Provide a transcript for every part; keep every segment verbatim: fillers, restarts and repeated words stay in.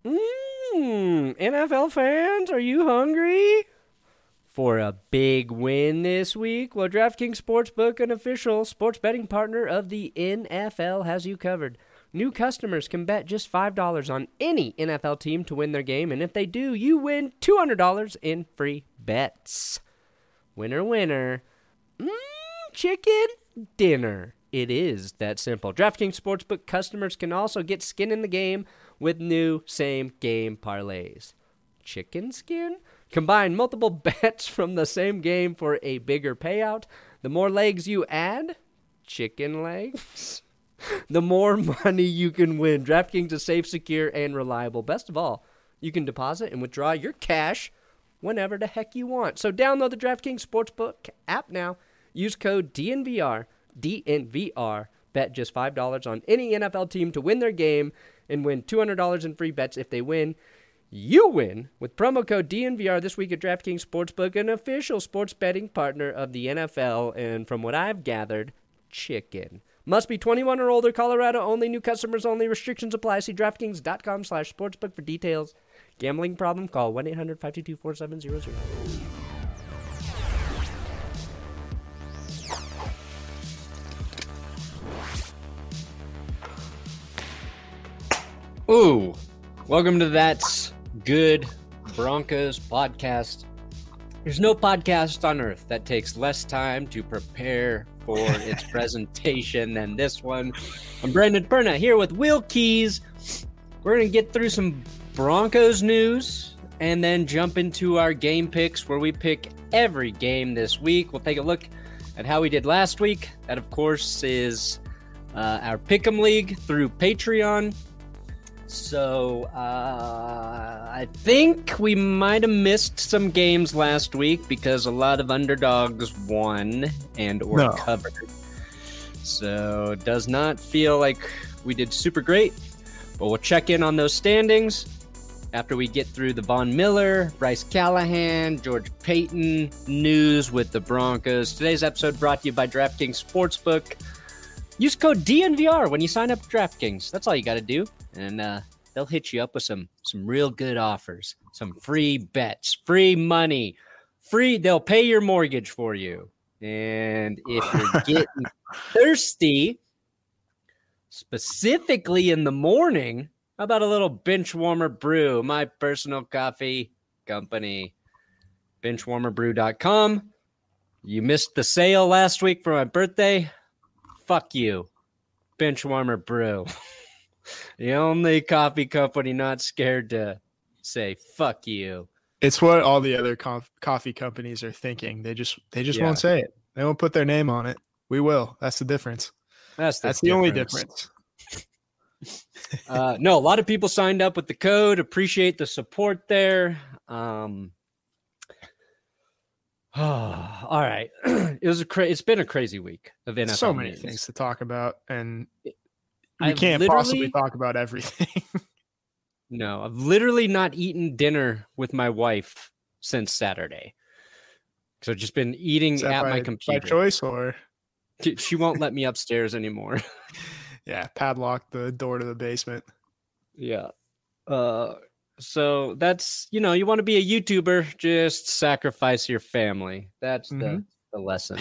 Mmm, N F L fans, are you hungry for a big win this week? Well, DraftKings Sportsbook, an official sports betting partner of the N F L, has you covered. New customers can bet just five dollars on any N F L team to win their game, and if they do, you win two hundred dollars in free bets. Winner, winner. Mmm, chicken dinner. It is that simple. DraftKings Sportsbook customers can also get skin in the game with new same-game parlays. Chicken skin? Combine multiple bets from the same game for a bigger payout. The more legs you add, chicken legs, the more money you can win. DraftKings is safe, secure, and reliable. Best of all, you can deposit and withdraw your cash whenever the heck you want. So download the DraftKings Sportsbook app now. Use code D N V R. D N V R. Bet just five dollars on any N F L team to win their game and win two hundred dollars in free bets if they win. You win with promo code D N V R this week at DraftKings Sportsbook, an official sports betting partner of the N F L, and from what I've gathered, chicken. Must be twenty-one or older, Colorado only, new customers only, restrictions apply. See DraftKings.com slash sportsbook for details. Gambling problem? Call one eight hundred five two two four seven zero zero. Ooh, welcome to That's Good Broncos podcast. There's no podcast on earth that takes less time to prepare for its presentation than this one. I'm Brandon Perna here with Will Keys. We're going to get through some Broncos news and then jump into our game picks where we pick every game this week. We'll take a look at how we did last week. That, of course, is uh, our Pick'em League through Patreon. So, uh, I think we might have missed some games last week because a lot of underdogs won and or no. covered. So, it does not feel like we did super great, but we'll check in on those standings after we get through the Von Miller, Bryce Callahan, George Payton news with the Broncos. Today's episode brought to you by DraftKings Sportsbook. Use code D N V R when you sign up for DraftKings. That's all you got to do. And uh, they'll hit you up with some some real good offers, some free bets, free money, free. They'll pay your mortgage for you. And if you're getting thirsty, specifically in the morning, how about a little Bench Warmer Brew, my personal coffee company, bench warmer brew dot com. You missed the sale last week for my birthday. Fuck you, Bench Warmer Brew. The only coffee company not scared to say fuck you. It's what all the other cof- coffee companies are thinking. They just they just yeah. won't say it. They won't put their name on it. We will. That's the difference. That's the, That's the only difference. uh, no, a lot of people signed up with the code. Appreciate the support there. Um, oh, all right. It was a cra- It's been a crazy week of N F L. So many news. things to talk about, and we I've can't possibly talk about everything. No, I've literally not eaten dinner with my wife since Saturday. So I've just been eating at by, my computer. By choice, or? She won't let me upstairs anymore. Yeah, padlock the door to the basement. Yeah. Uh, so that's, you know, you want to be a YouTuber, just sacrifice your family. That's mm-hmm. the, the lesson.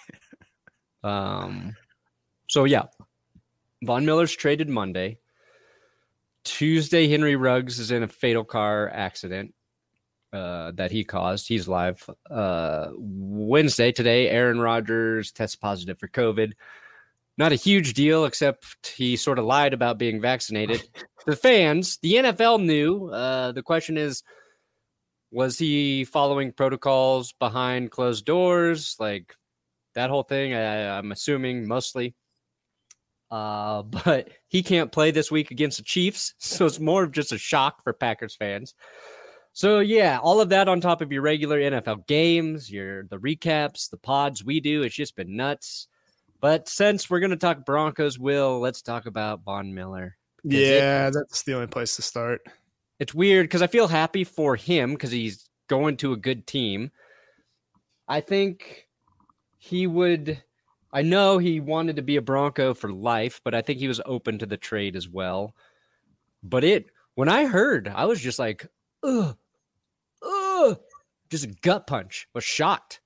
um. So, yeah. Von Miller's traded Monday. Tuesday, Henry Ruggs is in a fatal car accident uh, that he caused. He's live. Uh, Wednesday, today, Aaron Rodgers tests positive for COVID. Not a huge deal, except he sort of lied about being vaccinated. The fans, the N F L knew. Uh, the question is, was he following protocols behind closed doors? Like that whole thing, I, I'm assuming mostly. Uh, but he can't play this week against the Chiefs, so it's more of just a shock for Packers fans. So, yeah, all of that on top of your regular N F L games, your the recaps, the pods we do. It's just been nuts. But since we're going to talk Broncos, Will, let's talk about Von Miller. Yeah, it, that's the only place to start. It's weird because I feel happy for him because he's going to a good team. I think he would – I know he wanted to be a Bronco for life, but I think he was open to the trade as well. But it When I heard, I was just like, ugh, ugh, just a gut punch. Was shocked.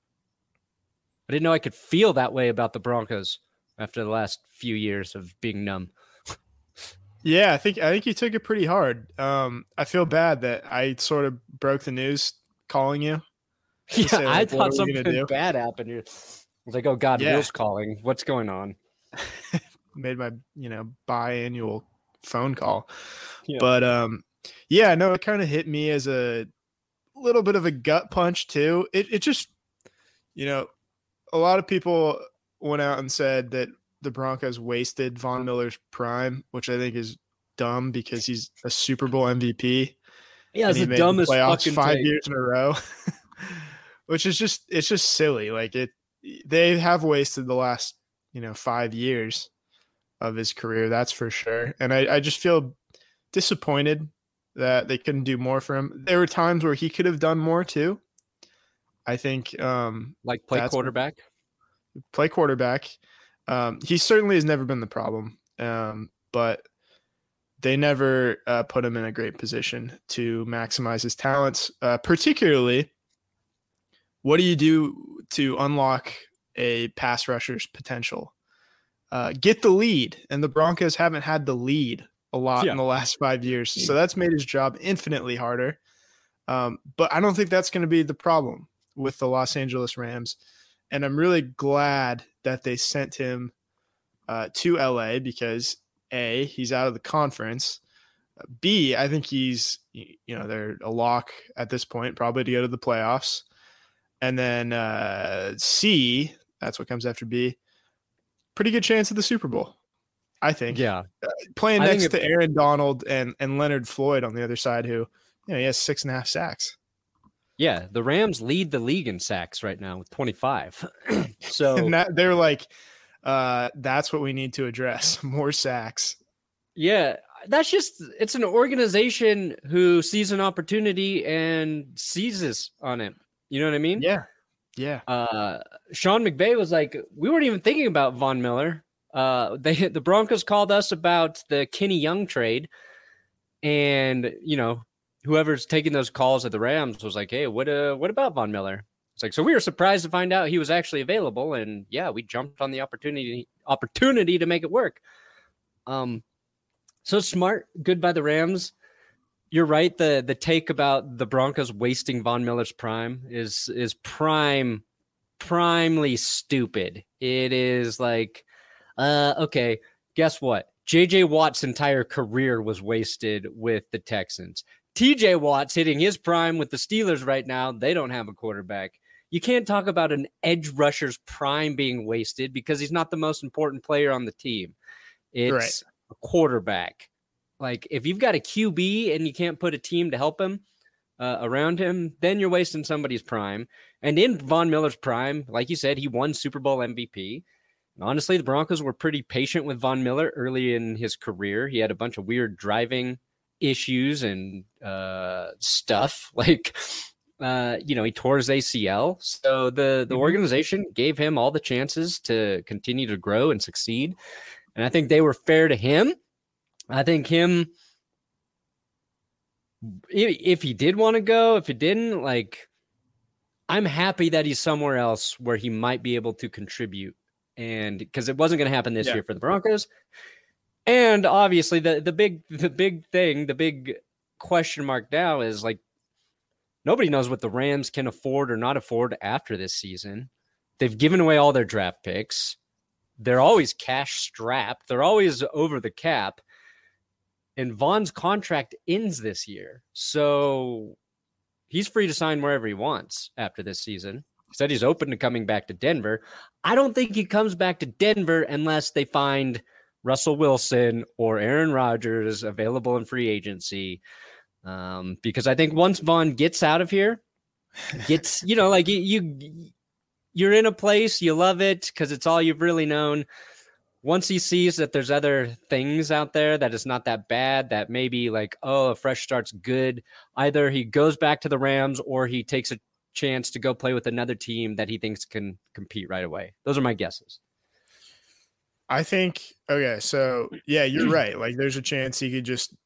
I didn't know I could feel that way about the Broncos after the last few years of being numb. Yeah, I think I think you took it pretty hard. Um, I feel bad that I sort of broke the news calling you. Yeah, say, I like, what thought are we gonna something do? bad happened here. I was like, oh God, Yeah. Will's calling. What's going on? Made my, you know, biannual phone call. Yeah. But um, yeah, no, it kind of hit me as a little bit of a gut punch too. It it just, you know, a lot of people went out and said that the Broncos wasted Von Miller's prime, which I think is dumb because he's a Super Bowl M V P. Yeah, and it's he the made dumbest the playoffs fucking five take. years in a row, which is just it's just silly. Like it, they have wasted the last you know five years of his career, that's for sure. And I, I just feel disappointed that they couldn't do more for him. There were times where he could have done more too. I think, um, Like play quarterback. Play quarterback. Um, he certainly has never been the problem, um, but they never uh, put him in a great position to maximize his talents. Uh, particularly, what do you do to unlock a pass rusher's potential? Uh, get the lead, and the Broncos haven't had the lead a lot yeah. in the last five years, so that's made his job infinitely harder. Um, but I don't think that's going to be the problem with the Los Angeles Rams, and I'm really glad that they sent him uh, to L A because A, he's out of the conference. B, I think he's, you know, they're a lock at this point, probably to go to the playoffs. And then uh, C, that's what comes after B, pretty good chance of the Super Bowl, I think. Yeah. Uh, playing I next think to it, Aaron Donald and, and Leonard Floyd on the other side, who, you know, he has six and a half sacks. Yeah, the Rams lead the league in sacks right now with twenty-five. So and that, they're like, uh, that's what we need to address, more sacks. Yeah, that's just, it's an organization who sees an opportunity and seizes on it. You know what I mean? Yeah. Yeah. Uh, Sean McVay was like, we weren't even thinking about Von Miller. Uh, they the Broncos called us about the Kenny Young trade, and you know whoever's taking those calls at the Rams was like, hey, what uh, what about Von Miller? It's like, so we were surprised to find out he was actually available, and yeah, we jumped on the opportunity opportunity to make it work. Um, so smart, good by the Rams. You're right. The the take about the Broncos wasting Von Miller's prime is is prime, primely stupid. It is like, uh, okay, guess what? J J Watt's entire career was wasted with the Texans. T J Watt's hitting his prime with the Steelers right now. They don't have a quarterback. You can't talk about an edge rusher's prime being wasted because he's not the most important player on the team. It's right. a quarterback. Like, if you've got a Q B and you can't put a team to help him uh, around him, then you're wasting somebody's prime. And in Von Miller's prime, like you said, he won Super Bowl M V P. And honestly, the Broncos were pretty patient with Von Miller early in his career. He had a bunch of weird driving issues and uh, stuff. Like, uh, you know, he tore his A C L. So the, the organization gave him all the chances to continue to grow and succeed. And I think they were fair to him. I think him, if he did want to go, if he didn't, like, I'm happy that he's somewhere else where he might be able to contribute. And because it wasn't going to happen this yeah. year for the Broncos. And obviously the, the big, the big thing, the big question mark now is like, nobody knows what the Rams can afford or not afford after this season. They've given away all their draft picks. They're always cash strapped. They're always over the cap. And Von's contract ends this year. So he's free to sign wherever he wants after this season. He said he's open to coming back to Denver. I don't think he comes back to Denver unless they find Russell Wilson or Aaron Rodgers available in free agency. Um, because I think once Von gets out of here, gets, you know, like you, you you're in a place, you love it because it's all you've really known. Once he sees that there's other things out there that is not that bad, that maybe like, oh, a fresh start's good, either he goes back to the Rams or he takes a chance to go play with another team that he thinks can compete right away. Those are my guesses. I think, okay, so yeah, you're right. Like there's a chance he could just,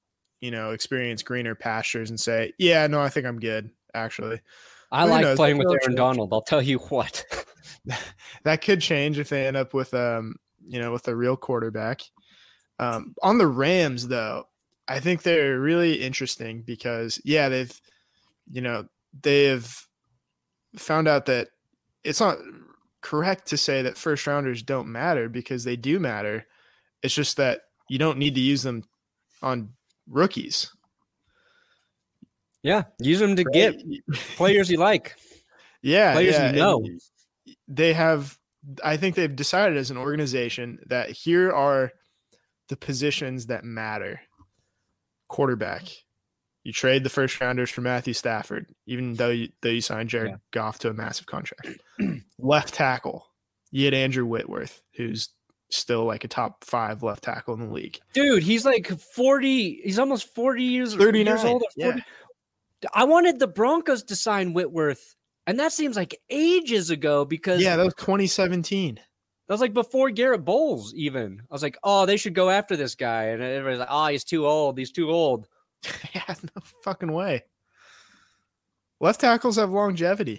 you know, experience greener pastures and say, yeah, no, I think I'm good, actually. I Who like knows? playing with That'll Aaron change. Donald. I'll tell you what. That could change if they end up with, um, you know, with a real quarterback. Um, on the Rams, though, I think they're really interesting because, yeah, they've, you know, they've found out that it's not correct to say that first rounders don't matter because they do matter. It's just that you don't need to use them on rookies. Yeah, use them to Right? get players you like. Yeah, Players yeah. you know. And they have, I think they've decided as an organization that here are the positions that matter. Quarterback. You trade the first rounders for Matthew Stafford, even though you, though you signed Jared Yeah. Goff to a massive contract. Left tackle. You had Andrew Whitworth, who's still like a top five left tackle in the league. Dude, he's like forty. He's almost forty years, thirty-nine years old. Or forty. Yeah. I wanted the Broncos to sign Whitworth, and that seems like ages ago because yeah, that was twenty seventeen. That was like before Garrett Bowles even. I was like, oh, they should go after this guy. And everybody's like, oh, he's too old. He's too old. Yeah, no fucking way. Left tackles have longevity.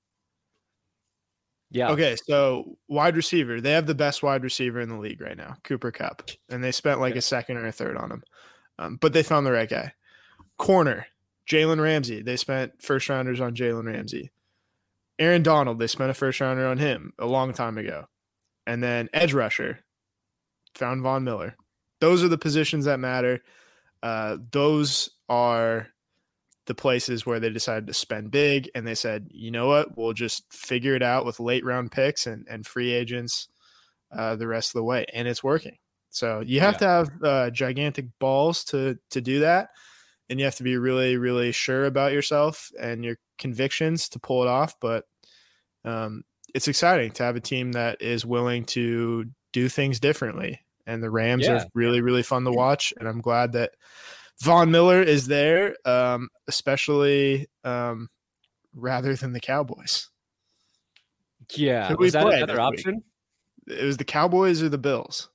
Yeah. Okay, so wide receiver. They have the best wide receiver in the league right now, Cooper Kupp. And they spent like Yeah. a second or a third on him. Um, but they found the right guy. Corner, Jalen Ramsey. They spent first rounders on Jalen Ramsey. Aaron Donald, they spent a first rounder on him a long time ago. And then edge rusher, found Von Miller. Those are the positions that matter. Uh, those are the places where they decided to spend big, and they said, you know what, we'll just figure it out with late round picks and, and free agents uh, the rest of the way. And it's working. So you have Yeah. to have uh, gigantic balls to to do that. And you have to be really, really sure about yourself and your convictions to pull it off. But um, it's exciting to have a team that is willing to do things differently. And the Rams Yeah. are really, really fun to watch. And I'm glad that Von Miller is there, um, especially um, rather than the Cowboys. Yeah. Who we Was that play another this week? option? It was the Cowboys or the Bills.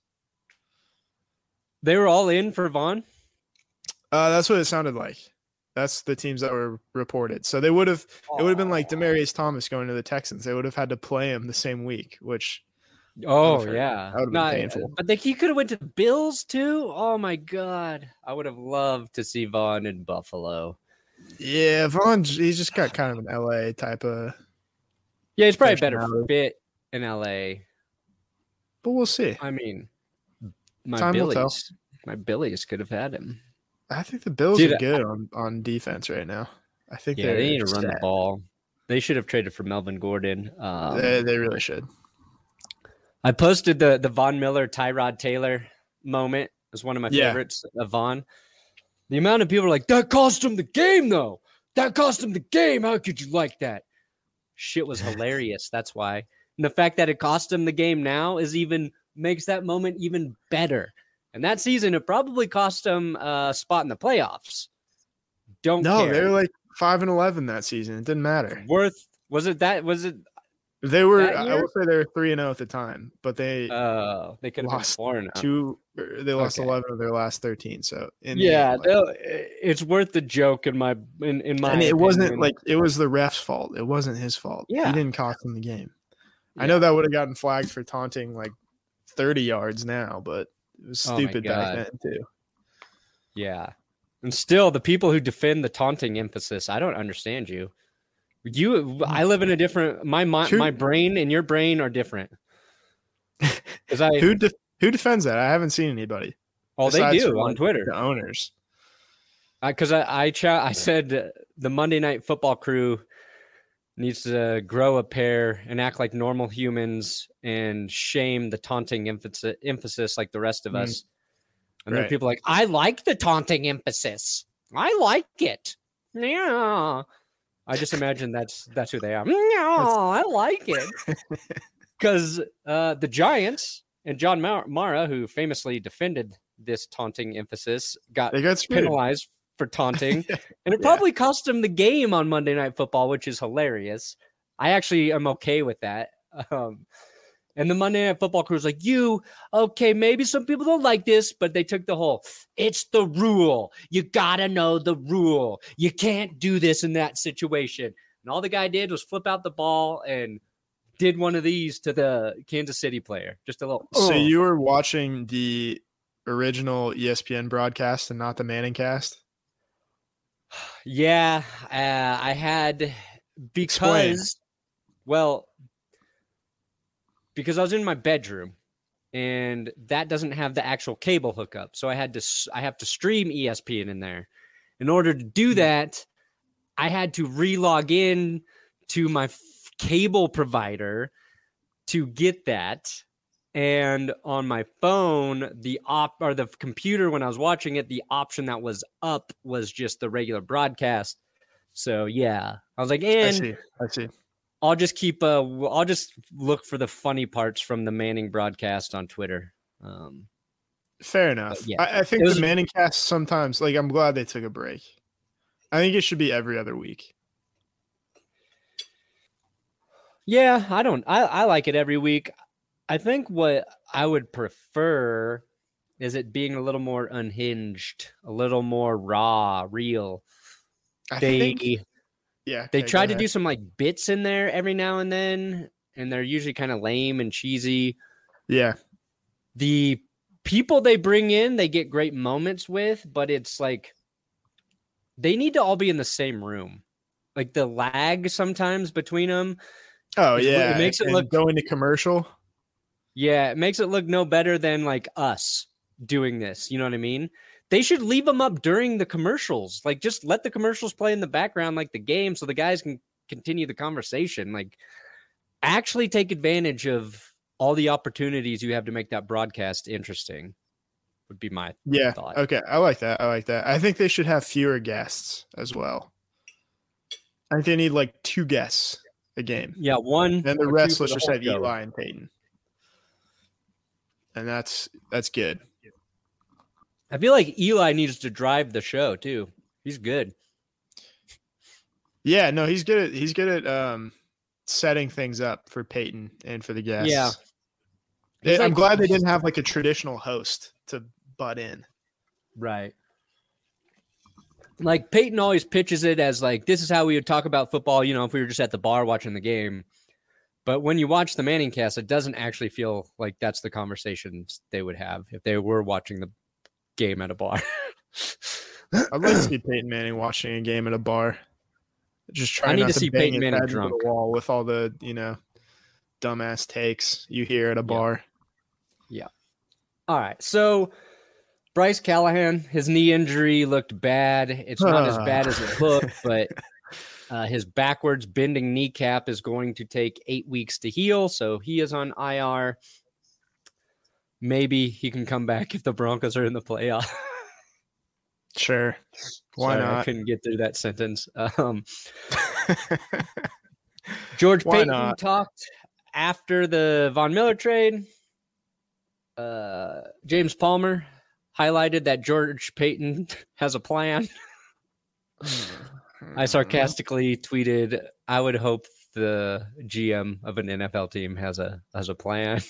They were all in for Vaughn? Uh, that's what it sounded like. That's the teams that were reported. So they would have, it would have been like Demaryius Thomas going to the Texans. They would have had to play him the same week, which Oh, hurt. yeah. That would've been No, painful. But they, he could have went to the Bills, too? Oh, my God. I would have loved to see Vaughn in Buffalo. yeah, Vaughn, he's just got kind of an L A type of, Yeah, he's probably a better Personality. fit in L A. but we'll see. I mean, my Time will tell. Billies. My Billies could have had him. I think the Bills Dude, are good on, on defense right now. I think Yeah, they're they need to run the set. ball. They should have traded for Melvin Gordon. Um, they, they really should. I posted the the Von Miller Tyrod Taylor moment. It was one of my Yeah. favorites of Von. The amount of people are like, that cost him the game, though. That cost him the game. How could you like that? Shit was hilarious. That's why. And the fact that it cost him the game now is even makes that moment even better. And that season, it probably cost him a spot in the playoffs. Don't No, care. they were like five and eleven that season. It didn't matter. Worth was it that was it? They were. That I year? will say they were three and zero at the time, but they Uh, they could have been Lost four and oh. two. or They lost Okay. eleven of their last thirteen. So in the Yeah, end, like- they'll- it's worth the joke in my in, in my. and it wasn't opinion. like it was the ref's fault. It wasn't his fault. Yeah. He didn't cost them the game. I Yeah. know that would have gotten flagged for taunting like thirty yards now, but it was Oh my stupid back God. then too. Yeah, and still the people who defend the taunting emphasis, I don't understand you. You, I live in a different. My my, True. my brain and your brain are different. Because I, Who de- who defends that? I haven't seen anybody. oh, they besides do from, on like, Twitter. The owners. Because I, I, ch- I said uh, the Monday Night Football crew needs to grow a pair and act like normal humans and shame the taunting emphasis, emphasis like the rest of Mm. us. And then Right. people are like, I like the taunting emphasis. I like it. Yeah. I just imagine that's that's who they are. No, I like it. Because uh, the Giants and John Mar- Mara, who famously defended this taunting emphasis, got They got screwed. penalized for taunting, and it Yeah. probably cost him the game on Monday Night Football, which is hilarious. I actually am okay with that. Um, And the Monday Night Football crew was like, you, okay, maybe some people don't like this, but they took the whole, it's the rule. You got to know the rule. You can't do this in that situation. And all the guy did was flip out the ball and did one of these to the Kansas City player. Just a little. So oh. you were watching the original E S P N broadcast and not the Manning cast? Yeah, uh, I had because, Explain. well, because I was in my bedroom and that doesn't have the actual cable hookup. So I had to, I have to stream E S P N in there. In order to do that, I had to re-log in to my f- cable provider to get that. And on my phone, the op or the computer, when I was watching it, the option that was up was just the regular broadcast. So yeah, I was like, and I see. I see. I'll just keep. Uh, I'll just look for the funny parts from the Manning broadcast on Twitter. Um, Fair enough. yeah, I, I think was, the Manning cast sometimes, like, I'm glad they took a break. I think it should be every other week. Yeah, I don't. I, I like it every week. I think what I would prefer is it being a little more unhinged, a little more raw, real. I they, think. Yeah, they okay, try to do some like bits in there every now and then, and they're usually kind of lame and cheesy. Yeah. The people they bring in, they get great moments with, but it's like they need to all be in the same room. Like the lag sometimes between them. Oh yeah, it makes it and look going to commercial. Yeah, it makes it look no better than like us doing this. You know what I mean? They should leave them up during the commercials. Like, just let the commercials play in the background like the game so the guys can continue the conversation. Like, actually take advantage of all the opportunities you have to make that broadcast interesting would be my yeah, thought. Okay, I like that. I like that. I think they should have fewer guests as well. I think they need like two guests a game. Yeah, one. And the rest, let's the just have show. Eli and Peyton. And that's that's good. I feel like Eli needs to drive the show too. He's good. Yeah, no, he's good at he's good at um, setting things up for Peyton and for the guests. Yeah. They, like, I'm glad they didn't have like a traditional host to butt in. Right. Like Peyton always pitches it as like, this is how we would talk about football, you know, if we were just at the bar watching the game. But when you watch the Manning cast, it doesn't actually feel like that's the conversations they would have if they were watching the game at a bar. I'd like to see Peyton Manning watching a game at a bar. Just trying I need not to to see bang Peyton his Manning head drunk. into the wall with all the, you know, dumbass takes you hear at a bar. Yeah. All right. So Bryce Callahan, his knee injury looked bad. It's not as bad as it looked, but uh, his backwards bending kneecap is going to take eight weeks to heal. So he is on I R. Maybe he can come back if the Broncos are in the playoff. Sure. Why Sorry, not? I couldn't get through that sentence. Um, George Why Payton not? talked after the Von Miller trade. Uh, James Palmer highlighted that George Payton has a plan. I sarcastically tweeted, I would hope the G M of an N F L team has a has a plan.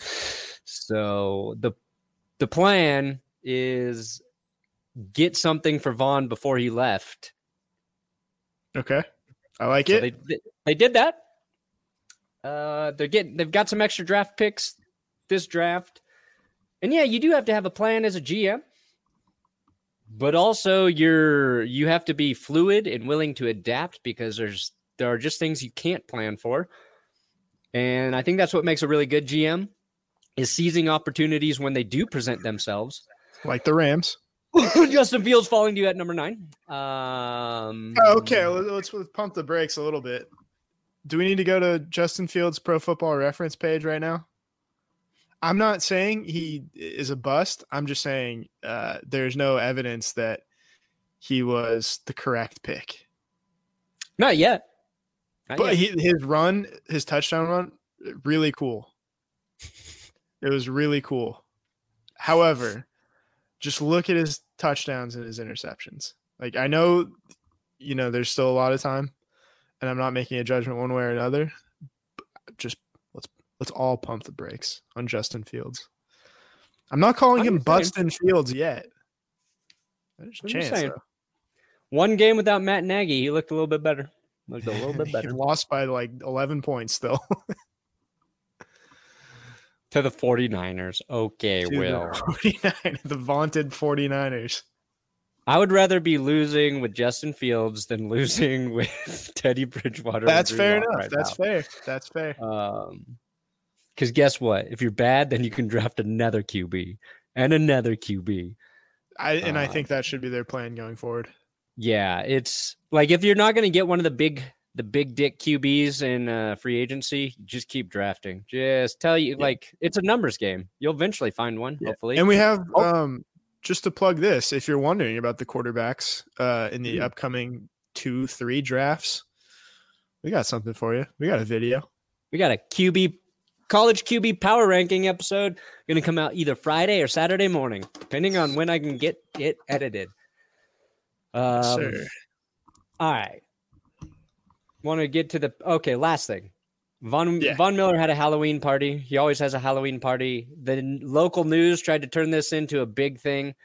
So the the plan is get something for Vaughn before he left. Okay. I like so it. They, they did that. Uh, they're getting they've got some extra draft picks this draft. And yeah, you do have to have a plan as a G M. But also you're you have to be fluid and willing to adapt because there's there are just things you can't plan for. And I think that's what makes a really good G M is seizing opportunities when they do present themselves. Like the Rams. Justin Fields falling to you at number nine. Um, okay, let's, let's pump the brakes a little bit. Do we need to go to Justin Fields' Pro Football Reference page right now? I'm not saying he is a bust. I'm just saying uh, there's no evidence that he was the correct pick. Not yet. Not but yet. He, his run, his touchdown run, really cool. It was really cool. However, just look at his touchdowns and his interceptions. Like, I know, you know, there's still a lot of time, and I'm not making a judgment one way or another. Just let's let's all pump the brakes on Justin Fields. I'm not calling I'm him just saying. Bustin' Fields yet. There's a I'm just chance, saying. though. One game without Matt Nagy, he looked a little bit better. Looked a little bit He better. lost by like eleven points still. To the 49ers. Okay, To Will. the forty-nine, the vaunted 49ers. I would rather be losing with Justin Fields than losing with Teddy Bridgewater. That's fair enough. Right That's now. fair. That's fair. Um, because guess what? If you're bad, then you can draft another Q B and another Q B. I and I Um, think that should be their plan going forward. Yeah, it's like if you're not going to get one of the big, the big dick Q Bs in uh, free agency, just keep drafting. Just tell you, Yeah. like it's a numbers game. You'll eventually find one, Yeah. hopefully. And we have Oh. um just to plug this, if you're wondering about the quarterbacks uh in the Mm. upcoming two, three drafts, we got something for you. We got a video. We got a Q B college Q B power ranking episode going to come out either Friday or Saturday morning, depending on when I can get it edited. Um, Sir. All right. Want to get to the okay. Last thing, Von Yeah. Von Miller had a Halloween party. He always has a Halloween party. The n- local news tried to turn this into a big thing.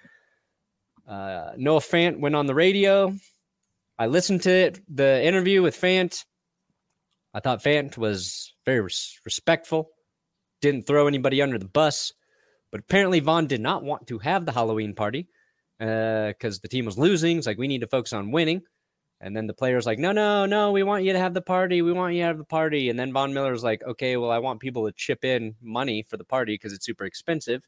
Uh, Noah Fant went on the radio. I listened to it, the interview with Fant. I thought Fant was very res- respectful, didn't throw anybody under the bus. But apparently Von did not want to have the Halloween party because uh, the team was losing. It's like, we need to focus on winning. And then the player's like, no, no, no, we want you to have the party. We want you to have the party. And then Von Miller's like, okay, well, I want people to chip in money for the party because it's super expensive.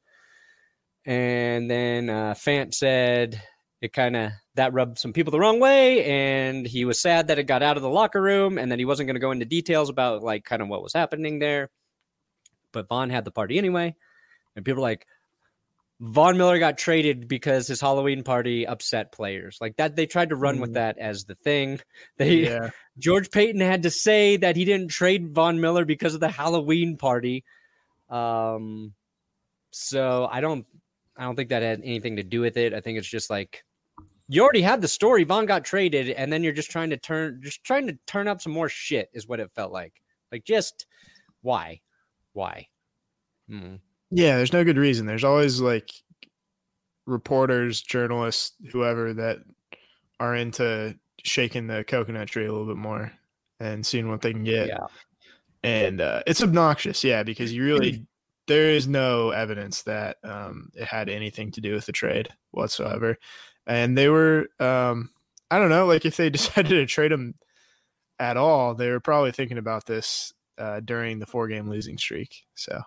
And then uh, Fant said it kind of, that rubbed some people the wrong way. And he was sad that it got out of the locker room and that he wasn't going to go into details about like kind of what was happening there. But Von had the party anyway. And people are like, Von Miller got traded because his Halloween party upset players. Like that, they tried to run mm. with that as the thing. They yeah. George Payton had to say that he didn't trade Von Miller because of the Halloween party. Um, so I don't, I don't think that had anything to do with it. I think it's just like you already had the story. Von got traded, and then you're just trying to turn, just trying to turn up some more shit. Is what it felt like. Like just why, why? Hmm. Yeah, there's no good reason. There's always like reporters, journalists, whoever that are into shaking the coconut tree a little bit more and seeing what they can get. Yeah. And uh, it's obnoxious, yeah, because you really there is no evidence that um, it had anything to do with the trade whatsoever. And they were, um, I don't know, like if they decided to trade him at all, they were probably thinking about this uh, during the four-game losing streak. So.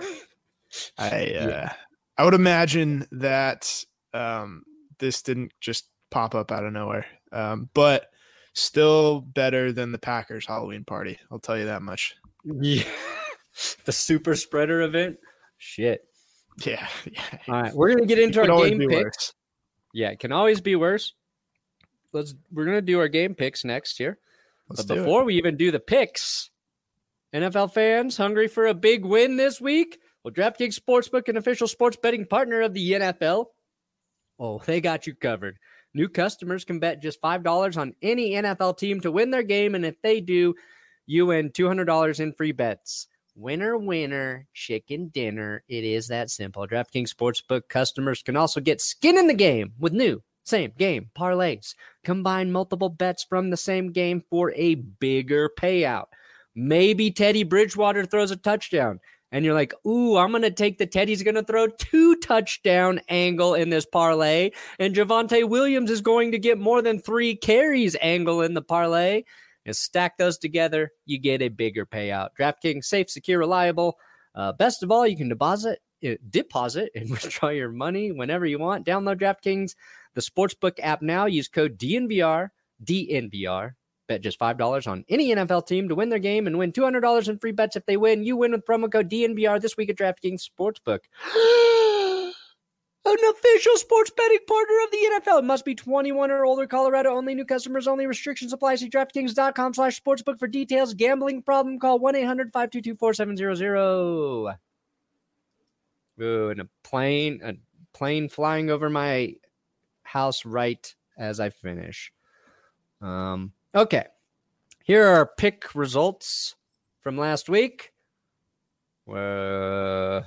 I uh, yeah. I would imagine that um, this didn't just pop up out of nowhere, um, but still better than the Packers Halloween party. I'll tell you that much. Yeah, the super spreader event. Shit. Yeah. yeah. All right, we're gonna get into it our game picks. Worse. Yeah, it can always be worse. Let's. We're gonna do our game picks next here. Let's but do before it. we even do the picks, N F L fans hungry for a big win this week? Well, DraftKings Sportsbook, an official sports betting partner of the N F L, oh, they got you covered. New customers can bet just five dollars on any N F L team to win their game, and if they do, you win two hundred dollars in free bets. Winner, winner, chicken dinner. It is that simple. DraftKings Sportsbook customers can also get skin in the game with new same game parlays. Combine multiple bets from the same game for a bigger payout. Maybe Teddy Bridgewater throws a touchdown. And you're like, ooh, I'm going to take the Teddy's going to throw two touchdown angle in this parlay. And Javonte Williams is going to get more than three carries angle in the parlay. And stack those together, you get a bigger payout. DraftKings, safe, secure, reliable. Uh, best of all, you can deposit, uh, deposit and withdraw your money whenever you want. Download DraftKings, the Sportsbook app now. Use code D N V R, D N V R. Bet just five dollars on any N F L team to win their game and win two hundred dollars in free bets if they win. You win with promo code D N V R this week at DraftKings Sportsbook. An official sports betting partner of the N F L. It must be twenty-one or older. Colorado only. New customers only. Restrictions apply. See DraftKings.com slash sportsbook for details. Gambling problem? Call one eight hundred five two two four seven zero zero. Ooh, and a plane, a plane flying over my house right as I finish. Um... Okay, here are our pick results from last week. Uh,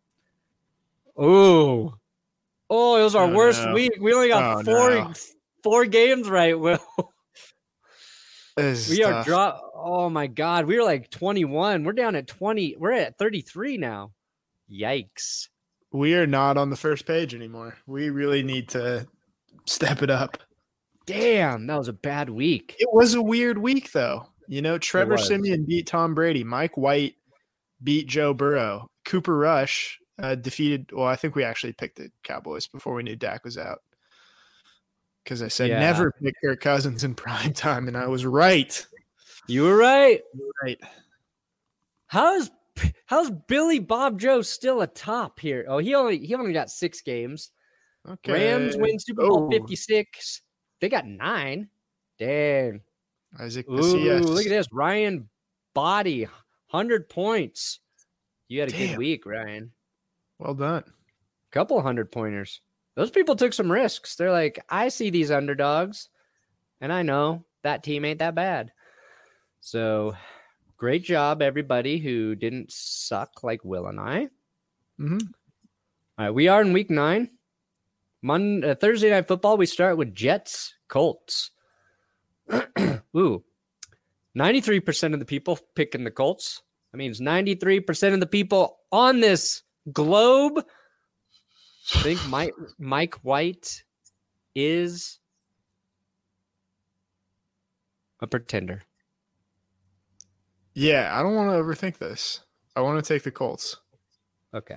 oh, oh, it was our Oh, worst no. week. We only got Oh, four no. four games right, Will. This is We are tough. draw. Oh my God, we were like twenty-one. We're down at twenty. We're at thirty-three now. Yikes! We are not on the first page anymore. We really need to step it up. Damn, that was a bad week. It was a weird week, though. You know, Trevor was. Siemian beat Tom Brady. Mike White beat Joe Burrow. Cooper Rush uh, defeated. Well, I think we actually picked the Cowboys before we knew Dak was out. Because I said Yeah. never pick Kirk Cousins in prime time, and I was right. You were right. Right. How's how's Billy Bob Joe still atop here? Oh, he only he only got six games. Okay. Rams win Super Bowl Oh. fifty-six. They got nine. Dang. Isaac Ooh, Macias. look at this. Ryan Body, one hundred points. You had a Damn. good week, Ryan. Well done. Couple hundred pointers. Those people took some risks. They're like, I see these underdogs, and I know that team ain't that bad. So great job, everybody who didn't suck like Will and I. Mm-hmm. All right, we are in week nine. Monday, uh, Thursday Night Football, we start with Jets, Colts. Ooh, ninety-three percent of the people picking the Colts. That means ninety-three percent of the people on this globe think Mike, Mike White is a pretender. Yeah, I don't want to overthink this. I want to take the Colts. Okay.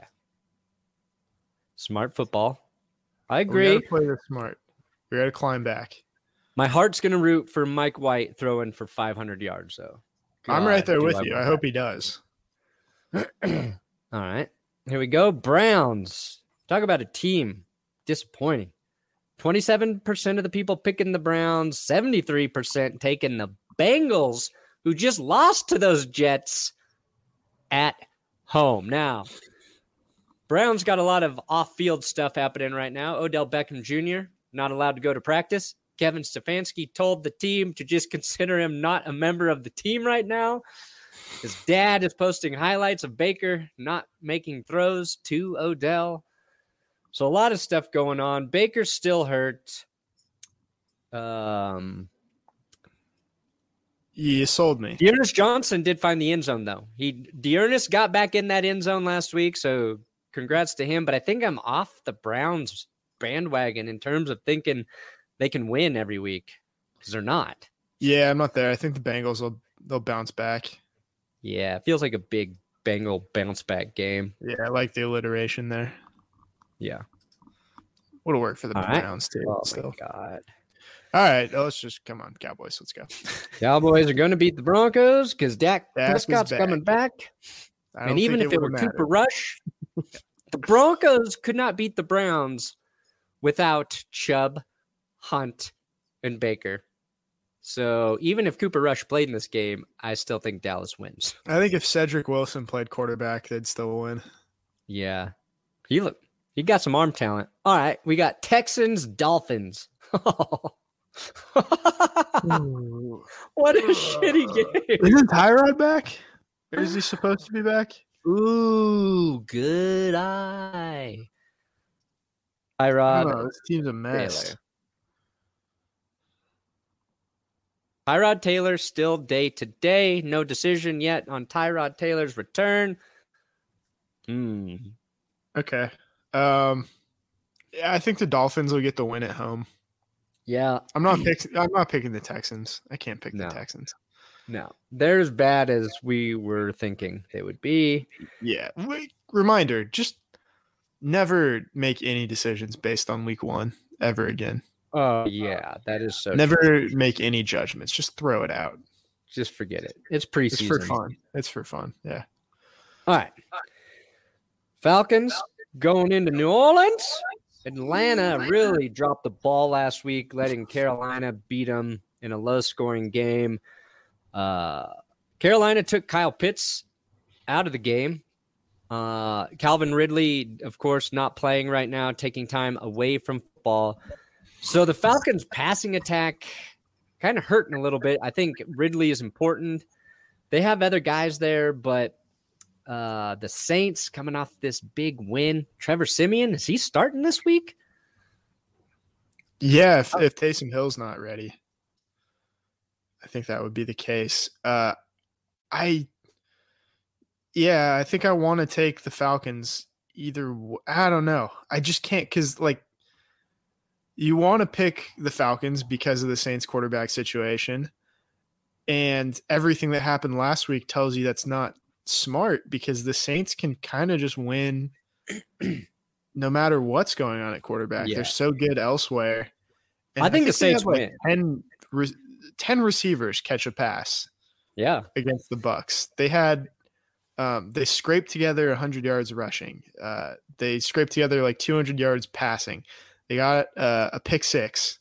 Smart football. I We agree. got to play this smart. We got to climb back. My heart's going to root for Mike White throwing for five hundred yards, though. I'm right God, there do with I you. want I hope he does. All right. Here we go. Browns. Talk about a team. Disappointing. twenty-seven percent of the people picking the Browns, seventy-three percent taking the Bengals, who just lost to those Jets at home. Now, Browns got a lot of off-field stuff happening right now. Odell Beckham Junior not allowed to go to practice. Kevin Stefanski told the team to just consider him not a member of the team right now. His dad is posting highlights of Baker not making throws to Odell. So a lot of stuff going on. Baker's still hurt. Um, You sold me. Dearness Johnson did find the end zone, though. He Dearness got back in that end zone last week, so congrats to him. But I think I'm off the Browns bandwagon in terms of thinking they can win every week because they're not. Yeah, I'm not there. I think the Bengals will they'll bounce back. Yeah, it feels like a big Bengal bounce back game. Yeah, I like the alliteration there. Yeah. Would have worked for the All right. Browns too. Oh, Still. my God. All right, let's just come on, Cowboys. Let's go. Cowboys are going to beat the Broncos because Dak Dak is Prescott's back. coming back. I don't And even think if it were would've Cooper mattered. Rush, the Broncos could not beat the Browns without Chubb, Hunt, and Baker. So even if Cooper Rush played in this game, I still think Dallas wins. I think if Cedric Wilson played quarterback, they'd still win. Yeah. He look he got some arm talent. All right, we got Texans, Dolphins. What a shitty game. Isn't Tyrod back? Or is he supposed to be back? Ooh, good eye. I Tyrod. don't know. This team's a mess. Taylor. Tyrod Taylor still day to day. No decision yet on Tyrod Taylor's return. Hmm. Okay. Um, yeah, I think the Dolphins will get the win at home. Yeah. I'm not picking. I'm not picking the Texans. I can't pick No. the Texans. No. They're as bad as we were thinking they would be. Yeah. Wait, reminder: just never make any decisions based on week one ever again. Oh, yeah. That is so Never true. make any judgments. Just throw it out. Just forget it. It's preseason. It's for fun. It's for fun. Yeah. All right. Falcons going into New Orleans. Atlanta really dropped the ball last week, letting Carolina beat them in a low-scoring game. Uh, Carolina took Kyle Pitts out of the game. Uh, Calvin Ridley, of course, not playing right now, taking time away from football. So the Falcons' passing attack kind of hurting a little bit. I think Ridley is important. They have other guys there, but Uh, the Saints coming off this big win. Trevor Siemian, is he starting this week? Yeah, if, if Taysom Hill's not ready, I think that would be the case. Uh, I, yeah, I think I want to take the Falcons either. I don't know. I just can't because, like, you want to pick the Falcons because of the Saints quarterback situation. And everything that happened last week tells you that's not smart because the Saints can kind of just win no matter what's going on at quarterback. Yeah. They're so good elsewhere. And I think, I think the Saints have, like, win. ten, ten receivers catch a pass. Yeah. Against the Bucs. They had um, they scraped together one hundred yards rushing. Uh, they scraped together like two hundred yards passing. They got uh, a pick six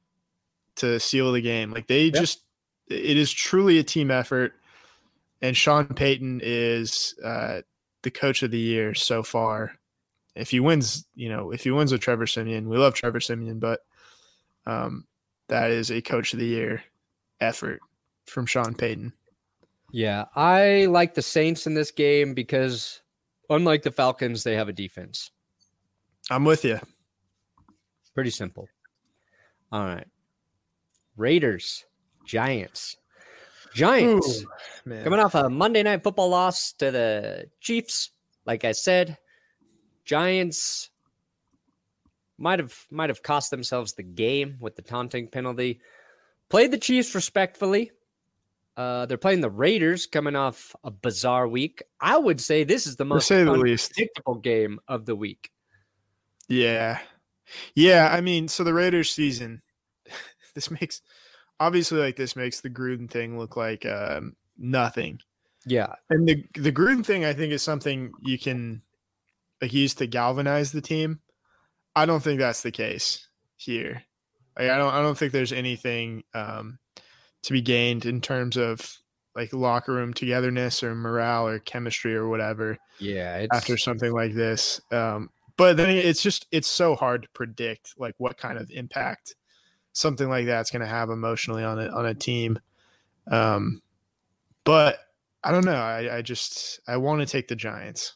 to seal the game. Like they yep. just it is truly a team effort. And Sean Payton is uh, the coach of the year so far. If he wins, you know, if he wins with Trevor Siemian, we love Trevor Siemian, but um, that is a coach of the year effort from Sean Payton. Yeah, I like the Saints in this game because unlike the Falcons, they have a defense. I'm with you. Pretty simple. All right. Raiders, Giants. Giants, Ooh, coming off a Monday Night Football loss to the Chiefs. Like I said, Giants might have might have cost themselves the game with the taunting penalty. Played the Chiefs respectfully. Uh, they're playing the Raiders coming off a bizarre week. I would say this is the most unpredictable game of the week. Yeah. Yeah, I mean, so the Raiders season, this makes obviously like this makes the Gruden thing look like um, nothing. Yeah. And the the Gruden thing I think is something you can like use to galvanize the team. I don't think that's the case here. Like, I don't I don't think there's anything um, to be gained in terms of like locker room togetherness or morale or chemistry or whatever. Yeah, it's... after something like this. Um, but then it's just it's so hard to predict like what kind of impact something like that's going to have emotionally on a on a team. Um, but I don't know. I, I just I want to take the Giants.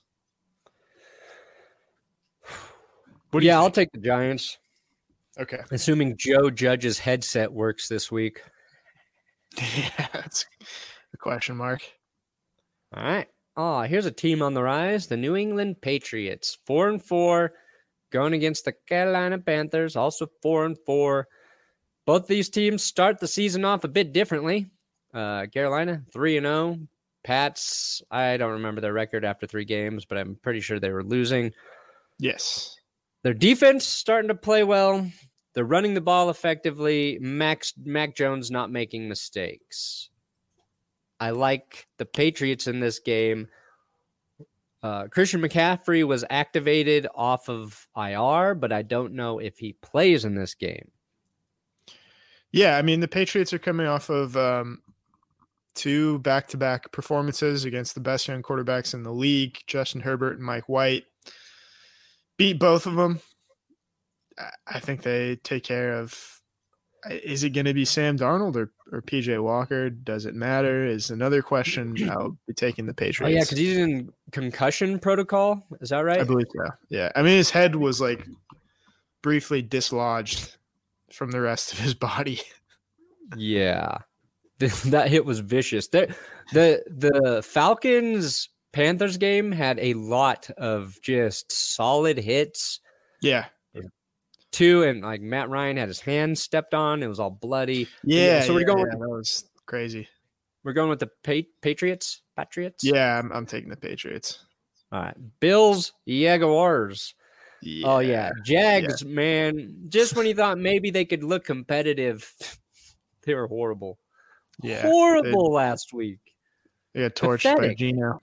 Yeah, I'll take the Giants. Okay. Assuming Joe Judge's headset works this week. Yeah, that's a question mark. All right. Oh, here's a team on the rise. The New England Patriots. Four and four. Going against the Carolina Panthers. Also four and four. Both these teams start the season off a bit differently. Uh, Carolina, three and oh. Pats, I don't remember their record after three games, but I'm pretty sure they were losing. Yes. Their defense starting to play well. They're running the ball effectively. Max Mac Jones not making mistakes. I like the Patriots in this game. Uh, Christian McCaffrey was activated off of I R, but I don't know if he plays in this game. Yeah, I mean, the Patriots are coming off of um, two back-to-back performances against the best young quarterbacks in the league, Justin Herbert and Mike White. Beat both of them. I think they take care of – is it going to be Sam Darnold or, or P J Walker? Does it matter? Is another question. I'll be taking the Patriots. Oh, yeah, because he's in concussion protocol. Is that right? I believe so. Yeah. I mean, his head was, like, briefly dislodged from the rest of his body. Yeah. That hit was vicious. The, the, the Falcons-Panthers game had a lot of just solid hits. Yeah. Two, and like Matt Ryan had his hand stepped on. It was all bloody. Yeah. So we're yeah, going. Yeah, with, that was crazy. We're going with the pa- Patriots. Patriots. Yeah, I'm, I'm taking the Patriots. All right, Bills, Jaguars. Yeah. Oh yeah, Jags. Yeah. Man, just when you thought maybe they could look competitive, they were horrible. Yeah, horrible they, last week. They got torched Pathetic. by Geno.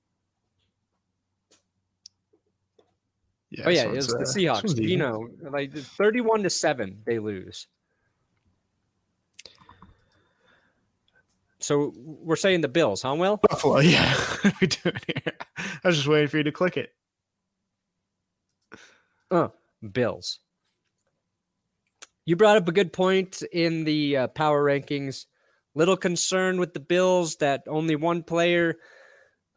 Yeah, oh yeah, it was uh, the Seahawks. You know, like thirty-one to seven, they lose. So we're saying the Bills, huh, Will? Buffalo, yeah. What are we doing here? I was just waiting for you to click it. Oh, Bills. You brought up a good point in the uh, power rankings. Little concern with the Bills that only one player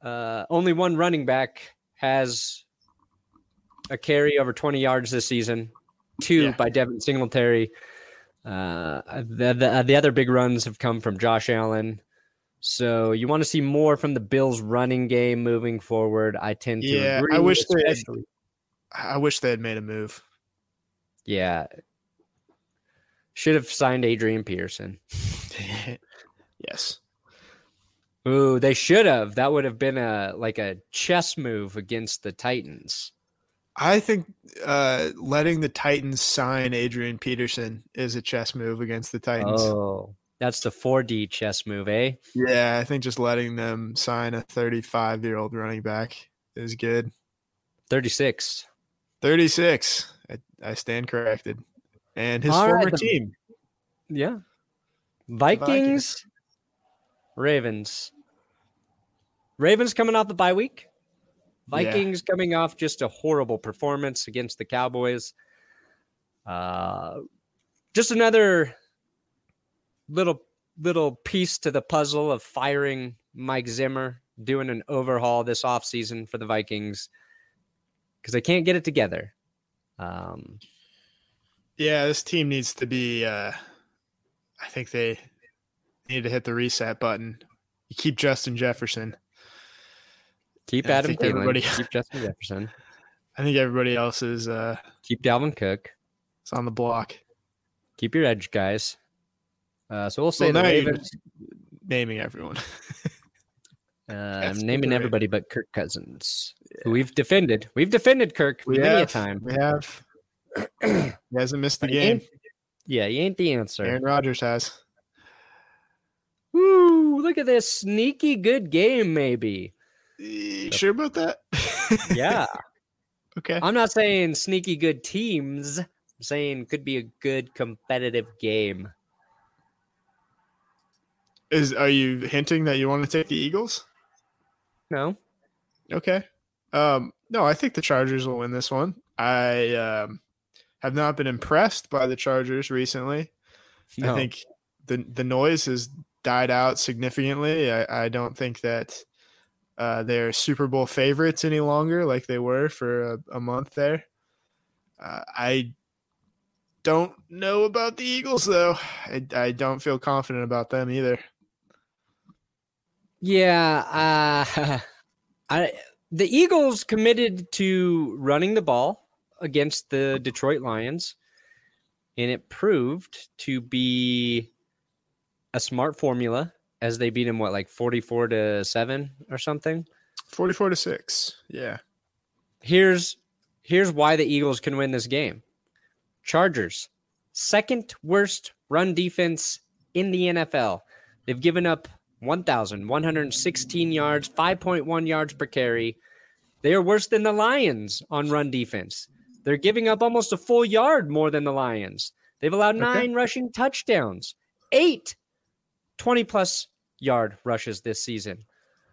Uh, only one running back has a carry over twenty yards this season. Two Yeah. by Devin Singletary. Uh, the, the the other big runs have come from Josh Allen. So you want to see more from the Bills' running game moving forward. I tend to Yeah, agree. I wish they had, especially. I wish they had made a move. Yeah. Should have signed Adrian Peterson. Yes. Ooh, they should have. That would have been a like a chess move against the Titans. I think uh, letting the Titans sign Adrian Peterson is a chess move against the Titans. Oh, that's the four D chess move, eh? Yeah, I think just letting them sign a thirty-five-year-old running back is good. thirty-six. thirty-six. I, I stand corrected. And his All former right, the- team. Yeah. Vikings. Vikings, Ravens. Ravens coming off the bye week. Vikings yeah. coming off just a horrible performance against the Cowboys. Uh, just another little little piece to the puzzle of firing Mike Zimmer, doing an overhaul this offseason for the Vikings because they can't get it together. Um, yeah, this team needs to be uh, – I think they need to hit the reset button. You keep Justin Jefferson. Keep and Adam Thielen. Keep Justin Jefferson. I think everybody else is uh, – Keep Dalvin Cook. It's on the block. Keep your edge guys. Uh, so we'll say well, the Ravens. Naming everyone. uh, I'm naming everybody but Kirk Cousins, yeah. who we've defended. We've defended Kirk we many have, a time. We have. He hasn't missed the game. Yeah, he ain't the answer. Aaron Rodgers has. Woo! Look at this sneaky good game, maybe. You sure about that? Yeah. Okay. I'm not saying sneaky good teams. I'm saying could be a good competitive game. Is are you hinting that you want to take the Eagles? No. Okay. Um, no, I think the Chargers will win this one. I um, have not been impressed by the Chargers recently. No. I think the the noise has died out significantly. I, I don't think that uh, they're Super Bowl favorites any longer like they were for a, a month there. Uh, I don't know about the Eagles, though. I, I don't feel confident about them either. Yeah, uh, I the Eagles committed to running the ball against the Detroit Lions, and it proved to be a smart formula as they beat them, what, like forty-four to seven or something? forty-four to six, yeah. Here's here's why the Eagles can win this game. Chargers, second worst run defense in the N F L. They've given up one thousand one hundred sixteen yards, five point one yards per carry. They are worse than the Lions on run defense. They're giving up almost a full yard more than the Lions. They've allowed nine okay. rushing touchdowns, eight twenty-plus yard rushes this season.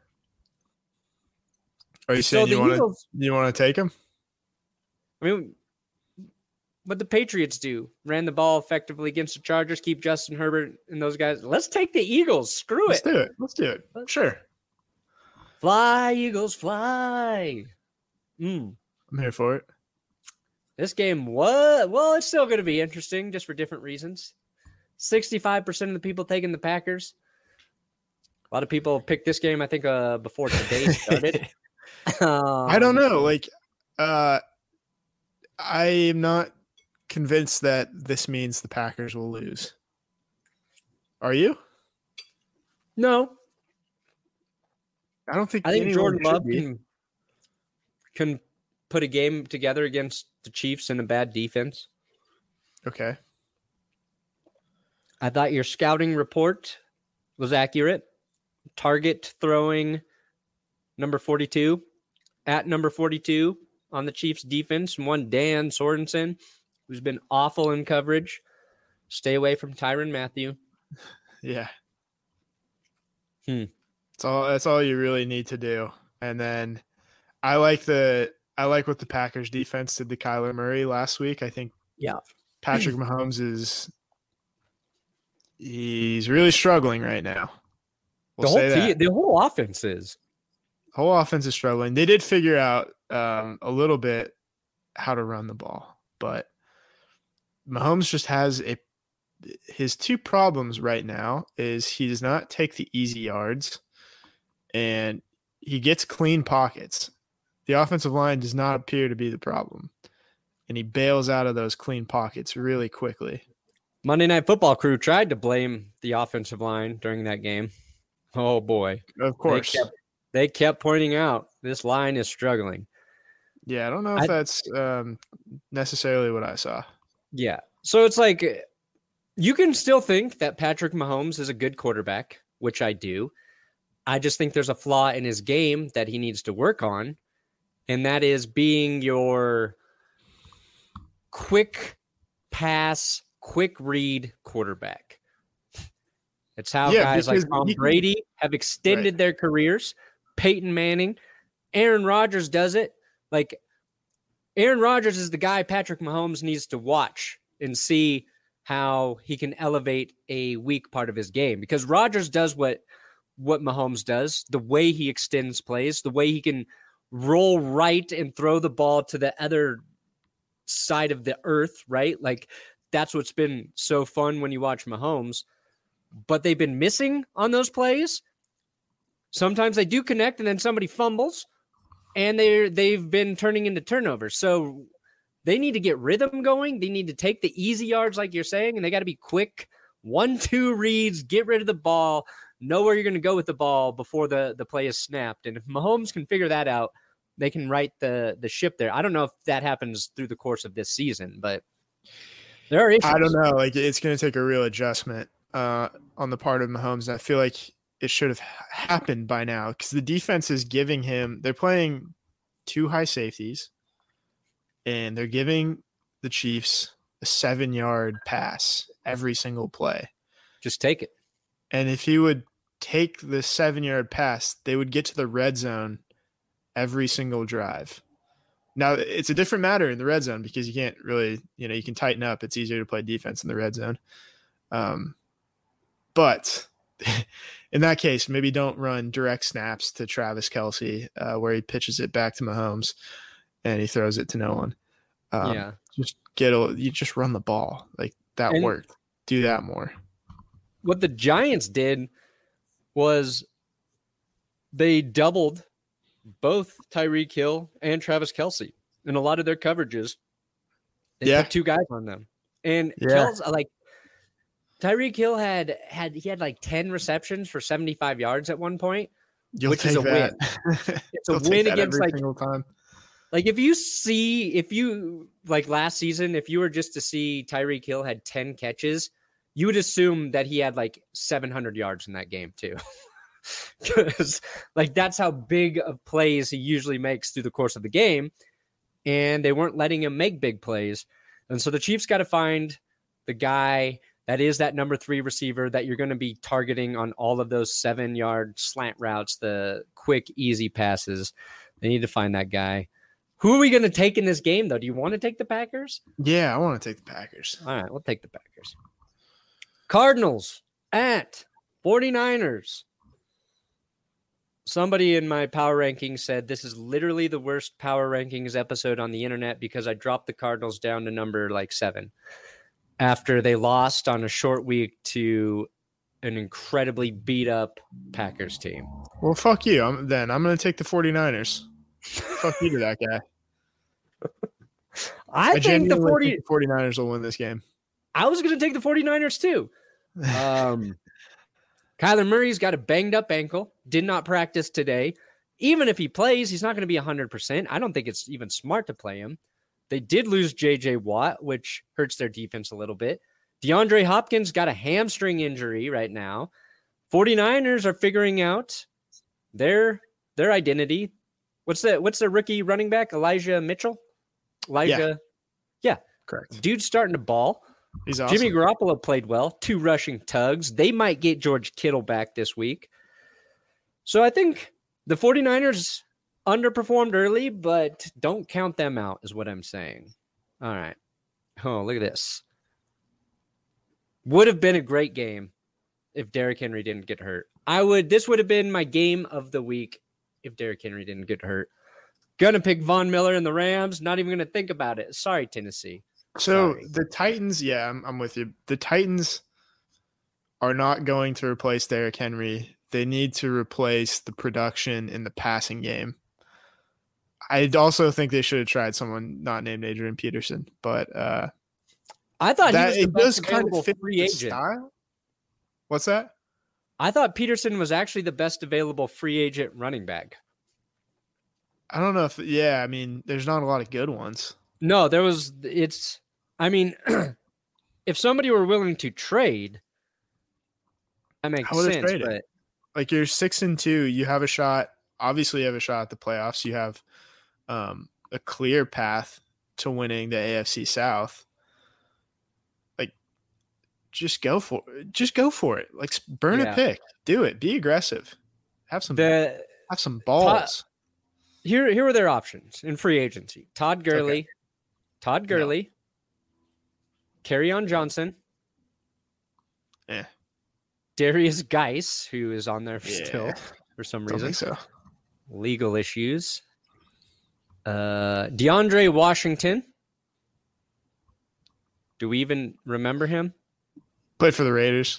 Are you saying so you want to you want to take them? I mean, what the Patriots do, ran the ball effectively against the Chargers, keep Justin Herbert and those guys. Let's take the Eagles. Screw Let's it. Let's do it. Let's do it. Sure. Fly, Eagles, fly. Mm. I'm here for it. This game was, well, it's still going to be interesting just for different reasons. sixty-five percent of the people taking the Packers. A lot of people picked this game, I think, uh, before today started. um, I don't know. Like, uh, I am not convinced that this means the Packers will lose. Are you? No. I don't think I think Jordan Love can, can put a game together against the Chiefs in a bad defense. Okay. I thought your scouting report was accurate. Target throwing number forty-two at number forty-two on the Chiefs defense. One Dan Sorensen, who's been awful in coverage. Stay away from Tyrann Mathieu. Yeah. Hmm. That's all that's all you really need to do. And then I like the I like what the Packers defense did to Kyler Murray last week. I think yeah. Patrick Mahomes is he's really struggling right now. We'll the whole say team, that. the whole offense is. Whole offense is struggling. They did figure out um, a little bit how to run the ball, but Mahomes just has a his two problems right now is he does not take the easy yards and he gets clean pockets. The offensive line does not appear to be the problem, and he bails out of those clean pockets really quickly. Monday Night Football crew tried to blame the offensive line during that game. Oh, boy. Of course. They kept, they kept pointing out this line is struggling. Yeah, I don't know if I, that's um, necessarily what I saw. Yeah. So it's like you can still think that Patrick Mahomes is a good quarterback, which I do. I just think there's a flaw in his game that he needs to work on, and that is being your quick pass, quick read quarterback. It's how yeah, guys like Tom Brady can, have extended right. their careers. Peyton Manning, Aaron Rodgers does it. Like Aaron Rodgers is the guy Patrick Mahomes needs to watch and see how he can elevate a weak part of his game, because Rodgers does what what Mahomes does, the way he extends plays, the way he can roll right and throw the ball to the other side of the earth, right? Like that's what's been so fun when you watch Mahomes. But they've been missing on those plays. Sometimes they do connect and then somebody fumbles, and they they've been turning into turnovers. So they need to get rhythm going. They need to take the easy yards, like you're saying, and they got to be quick. One, two reads, get rid of the ball, know where you're going to go with the ball before the, the play is snapped. And if Mahomes can figure that out, they can right the, the ship there. I don't know if that happens through the course of this season, but there are issues. I don't know. Like it's going to take a real adjustment uh, on the part of Mahomes. And I feel like it should have happened by now because the defense is giving him – they're playing two high safeties, and they're giving the Chiefs a seven-yard pass every single play. Just take it. And if he would take the seven-yard pass, they would get to the red zone every single drive. Now, it's a different matter in the red zone because you can't really – you know, you can tighten up. It's easier to play defense in the red zone. Um, but in that case, maybe don't run direct snaps to Travis Kelce uh, where he pitches it back to Mahomes and he throws it to no one. Um, yeah. Just get a, you just run the ball. Like that and worked. Do that more. What the Giants did was they doubled both Tyreek Hill and Travis Kelce in a lot of their coverages. They yeah. put two guys on them. And yeah. Kelce, like Tyreek Hill had had he had like ten receptions for seventy-five yards at one point, You'll which is a that. win. It's a win against like time. Like if you see if you like last season, if you were just to see Tyreek Hill had ten catches, you would assume that he had like seven hundred yards in that game too. Because like that's how big of plays he usually makes through the course of the game. And they weren't letting him make big plays. And so the Chiefs got to find the guy that is that number three receiver that you're going to be targeting on all of those seven yard slant routes, the quick, easy passes. They need to find that guy. Who are we going to take in this game, though? Do you want to take the Packers? Yeah, I want to take the Packers. All right, we'll take the Packers. Cardinals at forty-niners. Somebody in my power rankings said this is literally the worst power rankings episode on the internet because I dropped the Cardinals down to number like seven after they lost on a short week to an incredibly beat up Packers team. Well, fuck you. I'm, then I'm going to take the forty-niners. Fuck you to that guy. I, I think the forty think the forty-niners will win this game. I was going to take the forty-niners too. Um, Kyler Murray's got a banged up ankle, did not practice today. Even if he plays, he's not going to be one hundred percent. I don't think it's even smart to play him. They did lose J J Watt, which hurts their defense a little bit. DeAndre Hopkins got a hamstring injury right now. forty-niners are figuring out their their identity. What's the what's the rookie running back? Elijah Mitchell? Elijah. Yeah. yeah. Correct. Dude's starting to ball. He's awesome. Jimmy Garoppolo played well. Two rushing tugs. They might get George Kittle back this week. So I think the forty-niners underperformed early, but don't count them out is what I'm saying. All right. Oh, look at this. Would have been a great game if Derrick Henry didn't get hurt. I would. This would have been my game of the week if Derrick Henry didn't get hurt. Gonna pick Von Miller and the Rams. Not even gonna think about it. Sorry, Tennessee. So Sorry. the Titans, yeah, I'm, I'm with you. The Titans are not going to replace Derrick Henry. They need to replace the production in the passing game. I also think they should have tried someone not named Adrian Peterson, but uh, I thought that, he was the it best does kind available of fit free the agent. style. What's that? I thought Peterson was actually the best available free agent running back. I don't know if, yeah, I mean, there's not a lot of good ones. No, there was, it's, I mean, if somebody were willing to trade, that makes I would've sense. traded. But Like you're six and two, you have a shot. Obviously, you have a shot at the playoffs. You have um, a clear path to winning the A F C South. Like, just go for it. Just go for it. Like, burn Yeah. a pick. Do it. Be aggressive. Have some. the have some balls. here, here were their options in free agency: Todd Gurley, Okay. Todd Gurley, Kerryon Johnson, Eh. Darius Geis, who is on there Yeah. still for some Don't reason, think so. legal issues. Uh, DeAndre Washington. Do we even remember him? Played for the Raiders.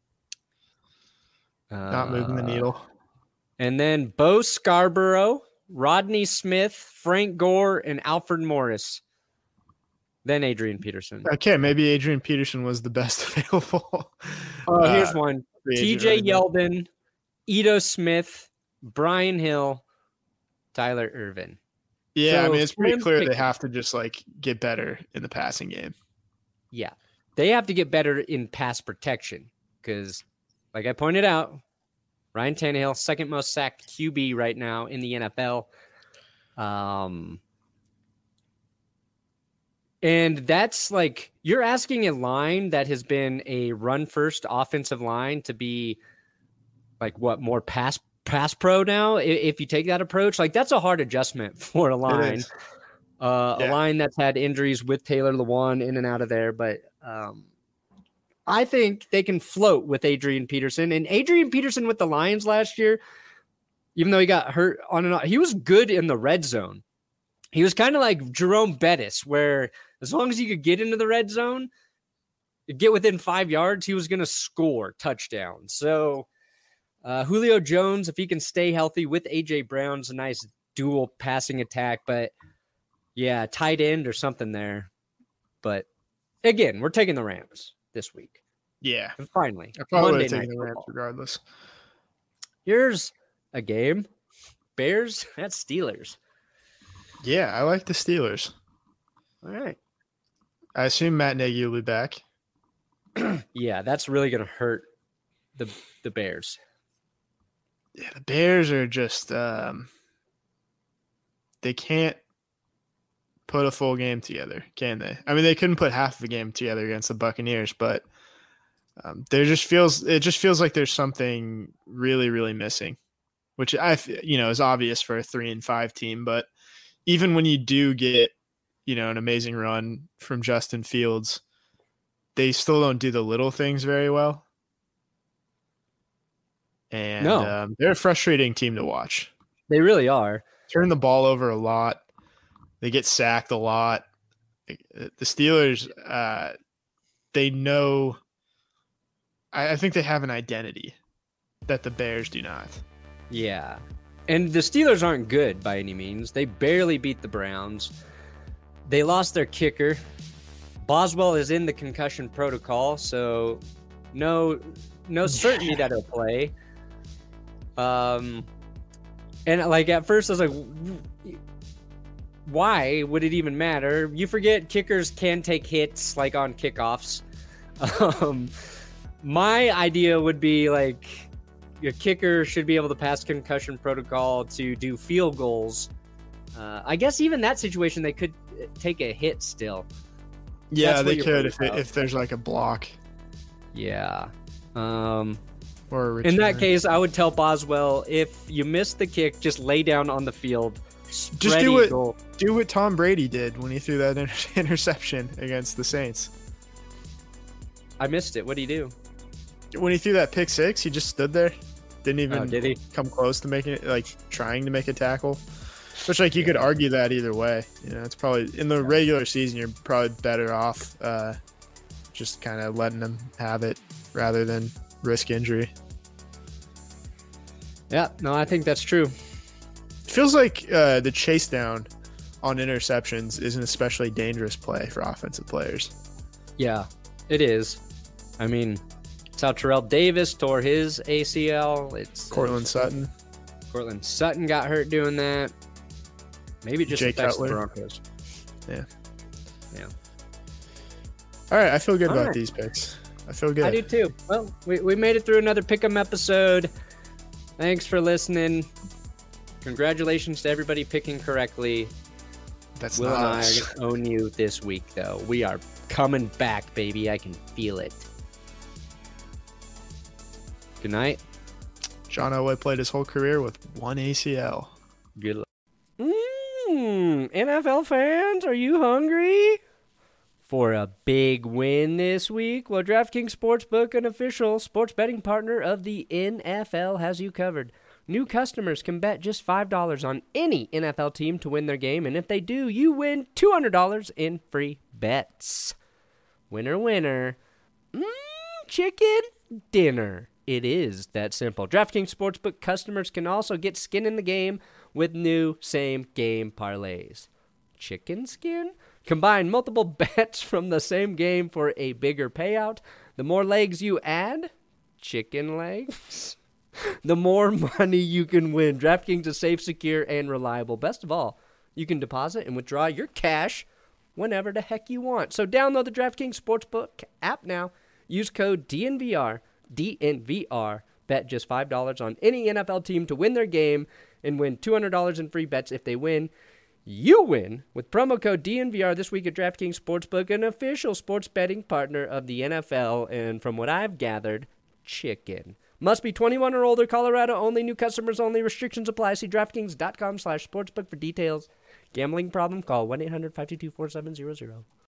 Uh, Not moving the needle. And then Bo Scarborough, Rodney Smith, Frank Gore, and Alfred Morris. Then Adrian Peterson. Okay, maybe Adrian Peterson was the best available. Oh, here's uh, one. free T agent J running back. Yeldon, Ito Smith, Brian Hill, Tyler Irvin. Yeah, I So mean, it's pretty slim clear they pickings. have to just like get better in the passing game. Yeah. They have to get better in pass protection because, like I pointed out, Ryan Tannehill, second most sacked Q B right now in the N F L. Um, and that's like, you're asking a line that has been a run first offensive line to be like what, more pass pass pro now? I- If you take that approach, like that's a hard adjustment for a line. is. Uh, Yeah. A line that's had injuries with Taylor Lewan in and out of there. But um, I think they can float with Adrian Peterson. And Adrian Peterson with the Lions last year, even though he got hurt on and on, he was good in the red zone. He was kind of like Jerome Bettis, where as long as he could get into the red zone, get within five yards, he was going to score touchdowns. So uh, Julio Jones, if he can stay healthy with A J Brown's a nice dual passing attack. But yeah, tight end or something there. But again, we're taking the Rams this week. Yeah, And finally, I probably would Monday have Night taken the Rams Football. regardless. Here's a game. Bears at Steelers. Yeah, I like the Steelers. All right. I assume Matt Nagy will be back. Yeah, that's really going to hurt the the Bears. Yeah, the Bears are just um, they can't put a full game together, can they? I mean, they couldn't put half of a game together against the Buccaneers, but um, there just feels it just feels like there's something really, really missing, which I f- you know is obvious for a three and five team. But even when you do get you know an amazing run from Justin Fields, they still don't do the little things very well. And No. um, they're a frustrating team to watch. They really are. Turn the ball over a lot. They get sacked a lot. The Steelers, uh, they know. I, I think they have an identity that the Bears do not. Yeah. And the Steelers aren't good by any means. They barely beat the Browns. They lost their kicker. Boswell is in the concussion protocol, so no no certainty that he'll play. Um, and like at first I was like, why would it even matter? You forget kickers can take hits like on kickoffs. Um, my idea would be like your kicker should be able to pass concussion protocol to do field goals. Uh, I guess even that situation they could take a hit still. Yeah, That's what they you're could worried if, it, about. if there's like a block Yeah. Um, or a in that return. case, I would tell Boswell, if you miss the kick, just lay down on the field. Just spread do it. eagle. Do what Tom Brady did when he threw that inter- interception against the Saints. I missed it. What do you do? When he threw that pick six, he just stood there, Didn't even Oh, did he? come close to making it, like trying to make a tackle. Which, like, you could argue that either way. You know, it's probably in the regular season, you're probably better off uh, just kind of letting them have it rather than risk injury. Yeah, no, I think that's true. It feels like uh, the chase down on interceptions is an especially dangerous play for offensive players. Yeah, it is. I mean, it's how Terrell Davis tore his A C L. It's Cortland Sutton. Cortland Sutton got hurt doing that. Maybe it just Jay affects Cutler. the Broncos. Yeah. Yeah. All right, I feel good All about right. these picks. I feel good. I do too. Well, we, we made it through another Pick'em episode. Thanks for listening. Congratulations to everybody picking correctly. That's Will not and I are us. going to own you this week, though. We are coming back, baby. I can feel it. Good night. John Elway played his whole career with one A C L. Good luck. Mmm, N F L fans, are you hungry for a big win this week? Well, DraftKings Sportsbook, an official sports betting partner of the N F L, has you covered. New customers can bet just five dollars on any N F L team to win their game, and if they do, you win two hundred dollars in free bets. Winner, winner. Mmm, chicken dinner. It is that simple. DraftKings Sportsbook customers can also get skin in the game with new same-game parlays. Chicken skin? Combine multiple bets from the same game for a bigger payout. The more legs you add, chicken legs, the more money you can win. DraftKings is safe, secure, and reliable. Best of all, you can deposit and withdraw your cash whenever the heck you want. So download the DraftKings Sportsbook app now. Use code D N V R. D N V R. Bet just five dollars on any N F L team to win their game and win two hundred dollars in free bets if they win. You win with promo code D N V R this week at DraftKings Sportsbook, an official sports betting partner of the N F L, and from what I've gathered, chicken. Must be twenty-one or older, Colorado only, new customers only, restrictions apply. See DraftKings.com slash sportsbook for details. Gambling problem? Call one eight hundred five two two four seven zero zero.